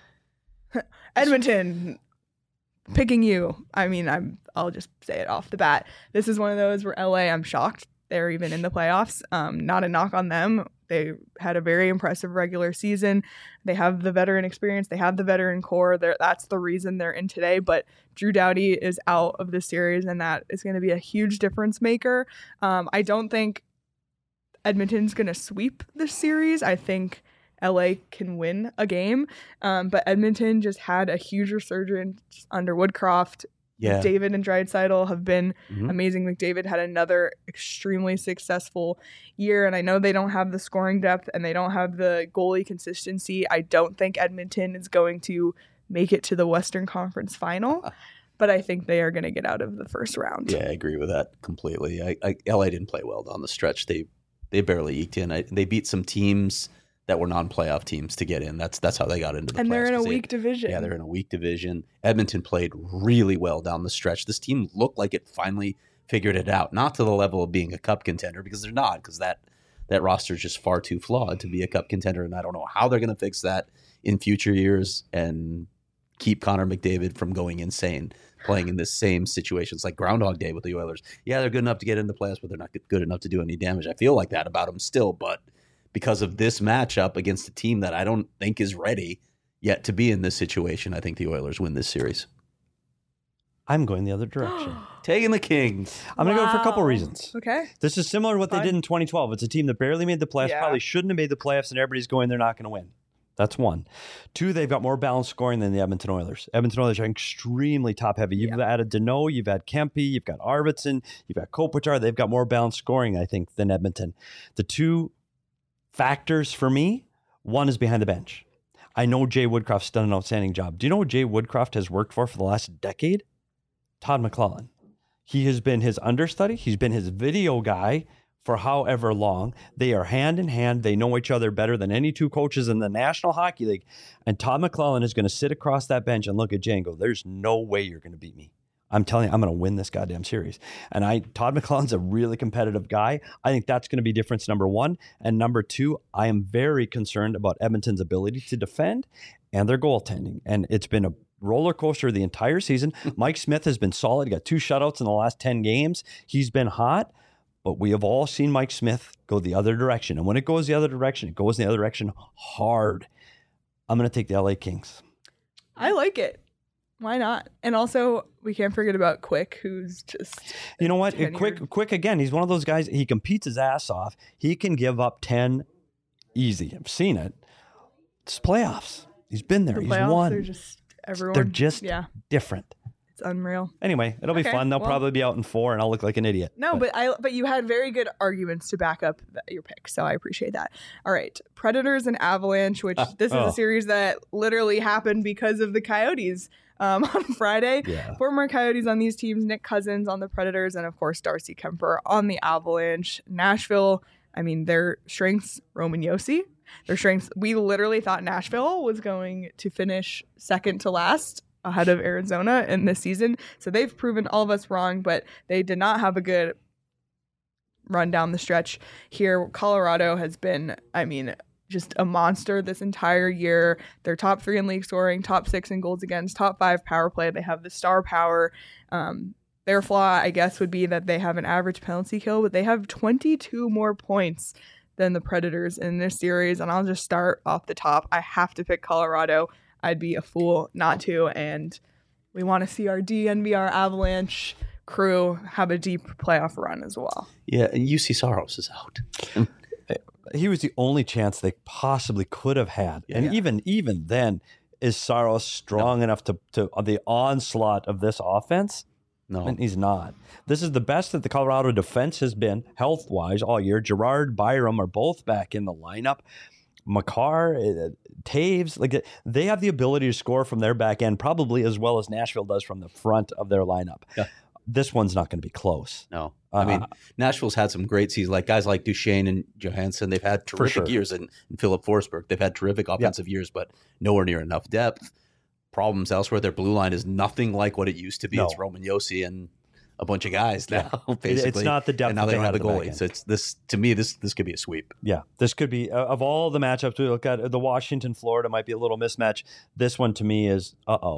Edmonton... Picking you. I'll just say it off the bat. This is one of those where LA, I'm shocked they're even in the playoffs. Not a knock on them. They had a very impressive regular season. They have the veteran experience. They have the veteran core. That's the reason they're in today. But Drew Doughty is out of the series, and that is going to be a huge difference maker. I don't think Edmonton's going to sweep this series. I think LA can win a game, but Edmonton just had a huge resurgence under Woodcroft. Yeah. McDavid and Draisaitl have been amazing. McDavid had another extremely successful year, and I know they don't have the scoring depth and they don't have the goalie consistency. I don't think Edmonton is going to make it to the Western Conference Final, but I think they are going to get out of the first round. Yeah, I agree with that completely. LA didn't play well down the stretch. They barely eked in. They beat some teams that were non-playoff teams to get in. That's how they got into the playoffs. And they're in a weak division. Yeah, they're in a weak division. Edmonton played really well down the stretch. This team looked like it finally figured it out. Not to the level of being a cup contender, because they're not, because that roster is just far too flawed to be a cup contender, and I don't know how they're going to fix that in future years and keep Connor McDavid from going insane, playing in the same situations like Groundhog Day with the Oilers. Yeah, they're good enough to get in the playoffs, but they're not good enough to do any damage. I feel like that about them still, but because of this matchup against a team that I don't think is ready yet to be in this situation, I think the Oilers win this series. I'm going the other direction. Taking the Kings. I'm going to go for a couple reasons. Okay. This is similar to what they did in 2012. It's a team that barely made the playoffs, probably shouldn't have made the playoffs, and everybody's going, they're not going to win. That's one. Two, they've got more balanced scoring than the Edmonton Oilers. Edmonton Oilers are extremely top-heavy. You've added Deneau, you've had Kempe, you've got Arvidsson, you've got Kopitar. They've got more balanced scoring, I think, than Edmonton. The two factors for me, one is behind the bench. I know Jay Woodcroft's done an outstanding job. Do you know what Jay Woodcroft has worked for the last decade? Todd McClellan. He has been his understudy. He's been his video guy for however long. They are hand in hand. They know each other better than any two coaches in the National Hockey League. And Todd McClellan is going to sit across that bench and look at Jay and go, there's no way you're going to beat me. I'm telling you, I'm going to win this goddamn series. And Todd McClellan's a really competitive guy. I think that's going to be difference number one. And number two, I am very concerned about Edmonton's ability to defend and their goaltending. And it's been a roller coaster the entire season. Mike Smith has been solid. He got 2 shutouts in the last 10 games. He's been hot. But we have all seen Mike Smith go the other direction. And when it goes the other direction, it goes in the other direction hard. I'm going to take the LA Kings. I like it. Why not? And also, we can't forget about Quick, who's just... You know what? Quick again, he's one of those guys, he competes his ass off. He can give up 10 easy. I've seen it. It's playoffs. He's been there. He's won. They're just different. It's unreal. Anyway, it'll be fun. They'll probably be out in 4, and I'll look like an idiot. No, but you had very good arguments to back up your pick, so I appreciate that. All right, Predators and Avalanche, which this is a series that literally happened because of the Coyotes on Friday. Yeah. Former Coyotes on these teams, Nick Cousins on the Predators, and of course Darcy Kemper on the Avalanche. Nashville, I mean, their strengths, Roman Josi. Their strengths, we literally thought Nashville was going to finish second to last ahead of Arizona in this season. So they've proven all of us wrong, but they did not have a good run down the stretch here. Colorado has been, I mean, just a monster this entire year. They're top 3 in league scoring, top 6 in goals against, top 5 power play. They have the star power. Their flaw, I guess, would be that they have an average penalty kill, but they have 22 more points than the Predators in this series. And I'll just start off the top. I have to pick Colorado. I'd be a fool not to. And we want to see our DNVR Avalanche crew have a deep playoff run as well. Yeah, and UC Saros is out. He was the only chance they possibly could have had. Yeah. And even then, is Saros strong enough to the onslaught of this offense? No. And he's not. This is the best that the Colorado defense has been health-wise all year. Girard, Byram are both back in the lineup. Makar, Taves, like they have the ability to score from their back end probably as well as Nashville does from the front of their lineup. Yeah. This one's not going to be close. No. I mean, Nashville's had some great seasons, like guys like Duchesne and Johansson. They've had terrific years, and Philip Forsberg. They've had terrific offensive years, but nowhere near enough depth. Problems elsewhere. Their blue line is nothing like what it used to be. No. It's Roman Josi and a bunch of guys now, basically. It's not the depth. And now they don't have a goalie. So it's this, to me, this could be a sweep. Yeah, this could be, of all the matchups we look at, the Washington-Florida might be a little mismatch. This one to me is,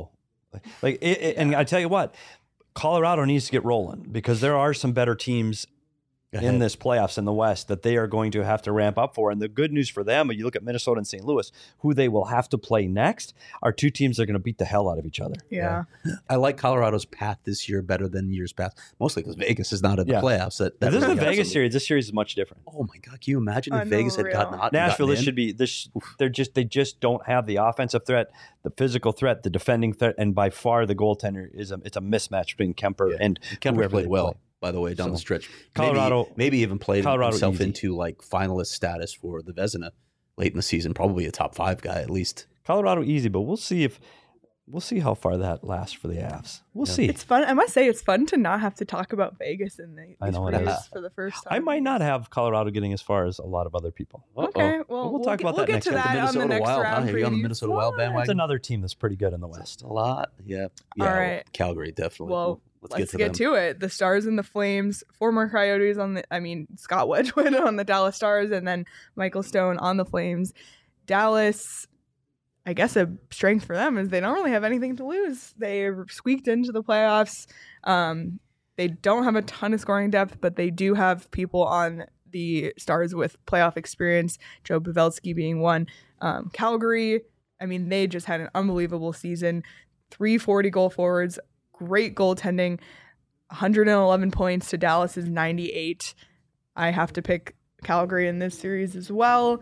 and I tell you what, Colorado needs to get rolling because there are some better teams in this playoffs in the West that they are going to have to ramp up for. And the good news for them, when you look at Minnesota and St. Louis, who they will have to play next, are 2 teams that are going to beat the hell out of each other. Yeah. I like Colorado's path this year better than years past, mostly because Vegas is not in the playoffs. This is the Vegas series. This series is much different. Oh my God. Can you imagine if Vegas had gotten hot? Nashville, this should be they just don't have the offensive threat, the physical threat, the defending threat, and by far the goaltender it's a mismatch between Kemper and Kemper played well. By the way, down the stretch, Colorado maybe even played himself easy into like finalist status for the Vezina late in the season. Probably a top 5 guy at least. Colorado easy, but we'll see how far that lasts for the Avs. We'll see. It's fun. I must say, it's fun to not have to talk about Vegas in these previews for the first time. I might not have Colorado getting as far as a lot of other people. Okay, well, we'll talk about that next round. We'll get to that on the next round. You're on the Minnesota Wild bandwagon. It's another team that's pretty good in the West. A lot, yeah. All right, Calgary definitely. Well, let's get to it. The Stars and the Flames, former Coyotes Scott Wedgwood on the Dallas Stars, and then Michael Stone on the Flames. Dallas, I guess a strength for them is they don't really have anything to lose. They squeaked into the playoffs. They don't have a ton of scoring depth, but they do have people on the Stars with playoff experience, Joe Pavelski being one. Calgary, they just had an unbelievable season. 340 goal forwards, great goaltending, 111 points to Dallas's 98. I have to pick Calgary in this series as well.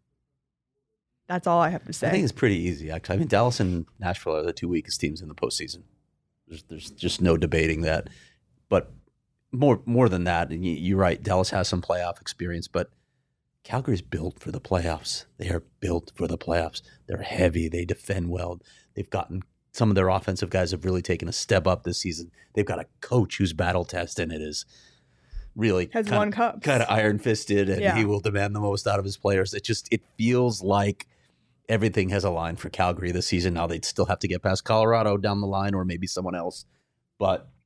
That's all I have to say. I think it's pretty easy, actually. Dallas and Nashville are the 2 weakest teams in the postseason. There's just no debating that. But more than that, and you're right, Dallas has some playoff experience, but Calgary's built for the playoffs. They are built for the playoffs. They're heavy. They defend well. They've gotten some of their offensive guys have really taken a step up this season. They've got a coach who's battle tested and it is really won cups. Kind of iron fisted, and he will demand the most out of his players. It feels like everything has aligned for Calgary this season. Now they'd still have to get past Colorado down the line, or maybe someone else. But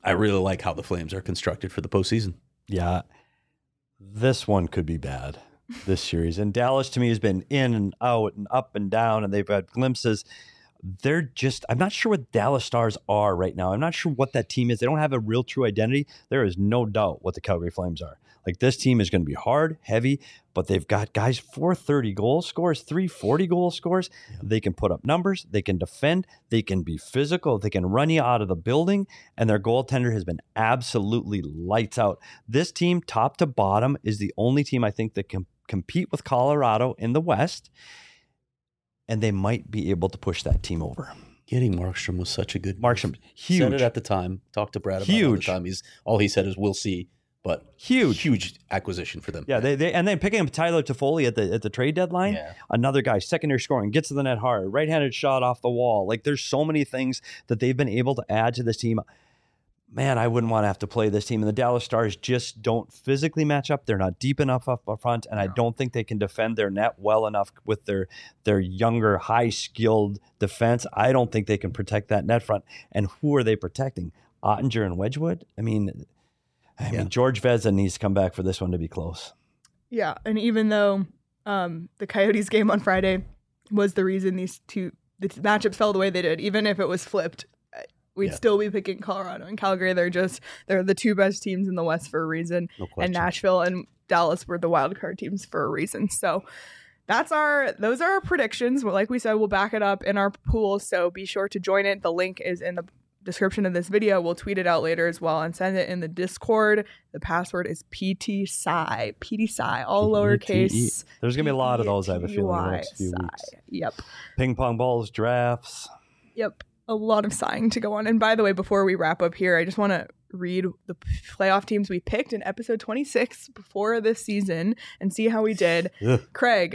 I really like how the Flames are constructed for the postseason. Yeah. This one could be bad, this series. And Dallas, to me, has been in and out and up and down, and they've had glimpses. I'm not sure what Dallas Stars are right now. I'm not sure what that team is. They don't have a real true identity. There is no doubt what the Calgary Flames are. Like, this team is going to be hard, heavy, but they've got guys 430 goal scorers, 340 goal scorers. Yeah. They can put up numbers. They can defend. They can be physical. They can run you out of the building. And their goaltender has been absolutely lights out. This team, top to bottom, is the only team I think that can compete with Colorado in the West. And they might be able to push that team over. Getting Markstrom was such a good move. Markstrom, huge. Said it at the time. Talked to Brad about it at the time. All he said is, we'll see. But huge acquisition for them. Yeah, they and then picking up Tyler Toffoli at the trade deadline. Yeah. Another guy, secondary scoring, gets to the net hard, right-handed shot off the wall. Like, there's so many things that they've been able to add to this team. Man, I wouldn't want to have to play this team. And the Dallas Stars just don't physically match up. They're not deep enough up front, and I don't think they can defend their net well enough with their younger, high-skilled defense. I don't think they can protect that net front. And who are they protecting? Ottinger and Wedgwood? I mean, George Vezina needs to come back for this one to be close. Yeah, and even though the Coyotes game on Friday was the reason the matchups fell the way they did, even if it was flipped, we'd still be picking Colorado and Calgary. They're the two best teams in the West for a reason. No question. And Nashville and Dallas were the wild card teams for a reason. So those are our predictions. Like we said, we'll back it up in our pool. So be sure to join it. The link is in the description of this video. We'll tweet it out later as well and send it in the Discord. The password is PTSci, all lowercase. There's going to be a lot of those, I have a feeling, in the next few weeks. Yep. Ping pong balls, drafts. Yep. A lot of sighing to go on. And by the way, before we wrap up here, I just want to read the playoff teams we picked in episode 26 before this season and see how we did. Craig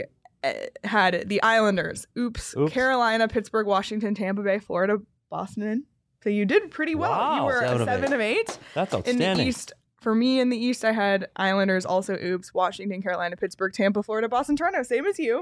had the Islanders. Oops. Carolina, Pittsburgh, Washington, Tampa Bay, Florida, Boston. So you did pretty well. Wow, you were a 7 of 8. That's outstanding. In the East, for me in the East, I had Islanders, also oops, Washington, Carolina, Pittsburgh, Tampa, Florida, Boston, Toronto. Same as you.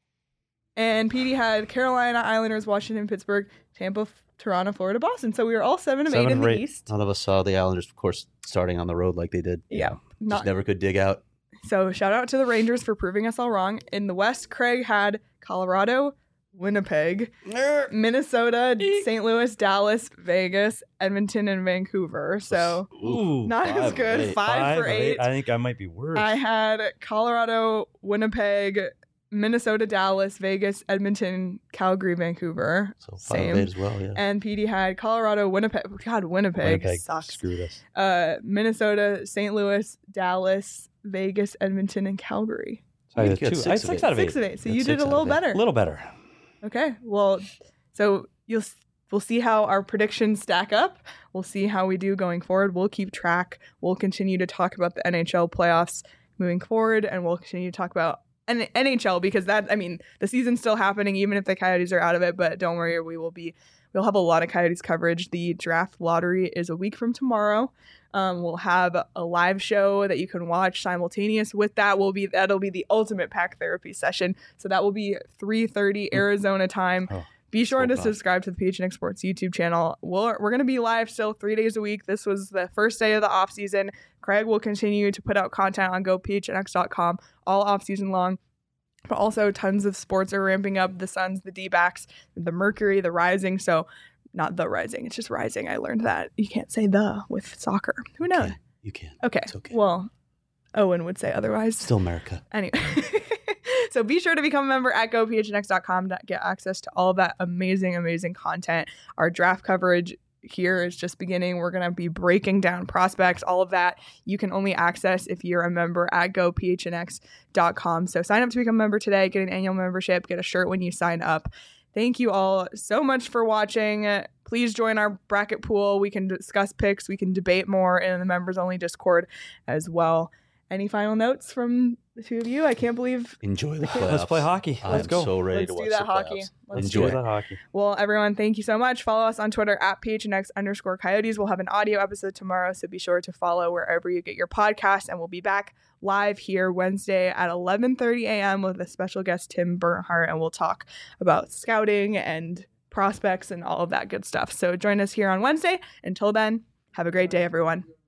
And Petey had Carolina, Islanders, Washington, Pittsburgh, Tampa, Toronto, Florida, Boston. So we were all 7 of 8 in the East. None of us saw the Islanders, of course, starting on the road like they did. Yeah. Just never could dig out. So shout out to the Rangers for proving us all wrong. In the West, Craig had Colorado, Winnipeg, Minnesota, St. Louis, Dallas, Vegas, Edmonton, and Vancouver. So not as good. 5 for 8. I think I might be worse. I had Colorado, Winnipeg, Minnesota, Dallas, Vegas, Edmonton, Calgary, Vancouver. So 5 of 8 as well, yeah. And PD had Colorado, Winnipeg. God, Winnipeg sucks. Screwed us. Minnesota, St. Louis, Dallas, Vegas, Edmonton, and Calgary. So I had 6 out of 8. 6 of 8. So you did a little better. A little better. Okay. Well, so we'll see how our predictions stack up. We'll see how we do going forward. We'll keep track. We'll continue to talk about the NHL playoffs moving forward, and we'll continue to talk about NHL because the season's still happening even if the Coyotes are out of it. But don't worry, we'll have a lot of Coyotes coverage. The draft lottery is a week from tomorrow. We'll have a live show that you can watch simultaneous with that. That'll be the ultimate pack therapy session. So that will be 3:30 Arizona time. Be sure to subscribe to the PHNX Sports YouTube channel. We're going to be live still 3 days a week. This was the first day of the off season. Craig will continue to put out content on gophnx.com all off season long. But also tons of sports are ramping up. The Suns, the D-backs, the Mercury, the Rising. So not the Rising. It's just Rising. I learned that. You can't say the with soccer. Who knows? You can. Okay. It's okay. Well, Owen would say otherwise. Still America. Anyway. So be sure to become a member at gophnx.com to get access to all of that amazing, amazing content. Our draft coverage here is just beginning. We're going to be breaking down prospects. All of that you can only access if you're a member at gophnx.com. So sign up to become a member today. Get an annual membership. Get a shirt when you sign up. Thank you all so much for watching. Please join our bracket pool. We can discuss picks. We can debate more in the members only Discord as well. Any final notes from the two of you? I can't believe. Enjoy the playoffs. Let's play hockey. Let's go. So ready to watch the hockey. Let's enjoy that hockey. Well, everyone, thank you so much. Follow us on Twitter at PHNX_Coyotes. We'll have an audio episode tomorrow, so be sure to follow wherever you get your podcast. And we'll be back live here Wednesday at 11:30 a.m. with a special guest, Tim Bernhardt, and we'll talk about scouting and prospects and all of that good stuff. So join us here on Wednesday. Until then, Have a great day, everyone.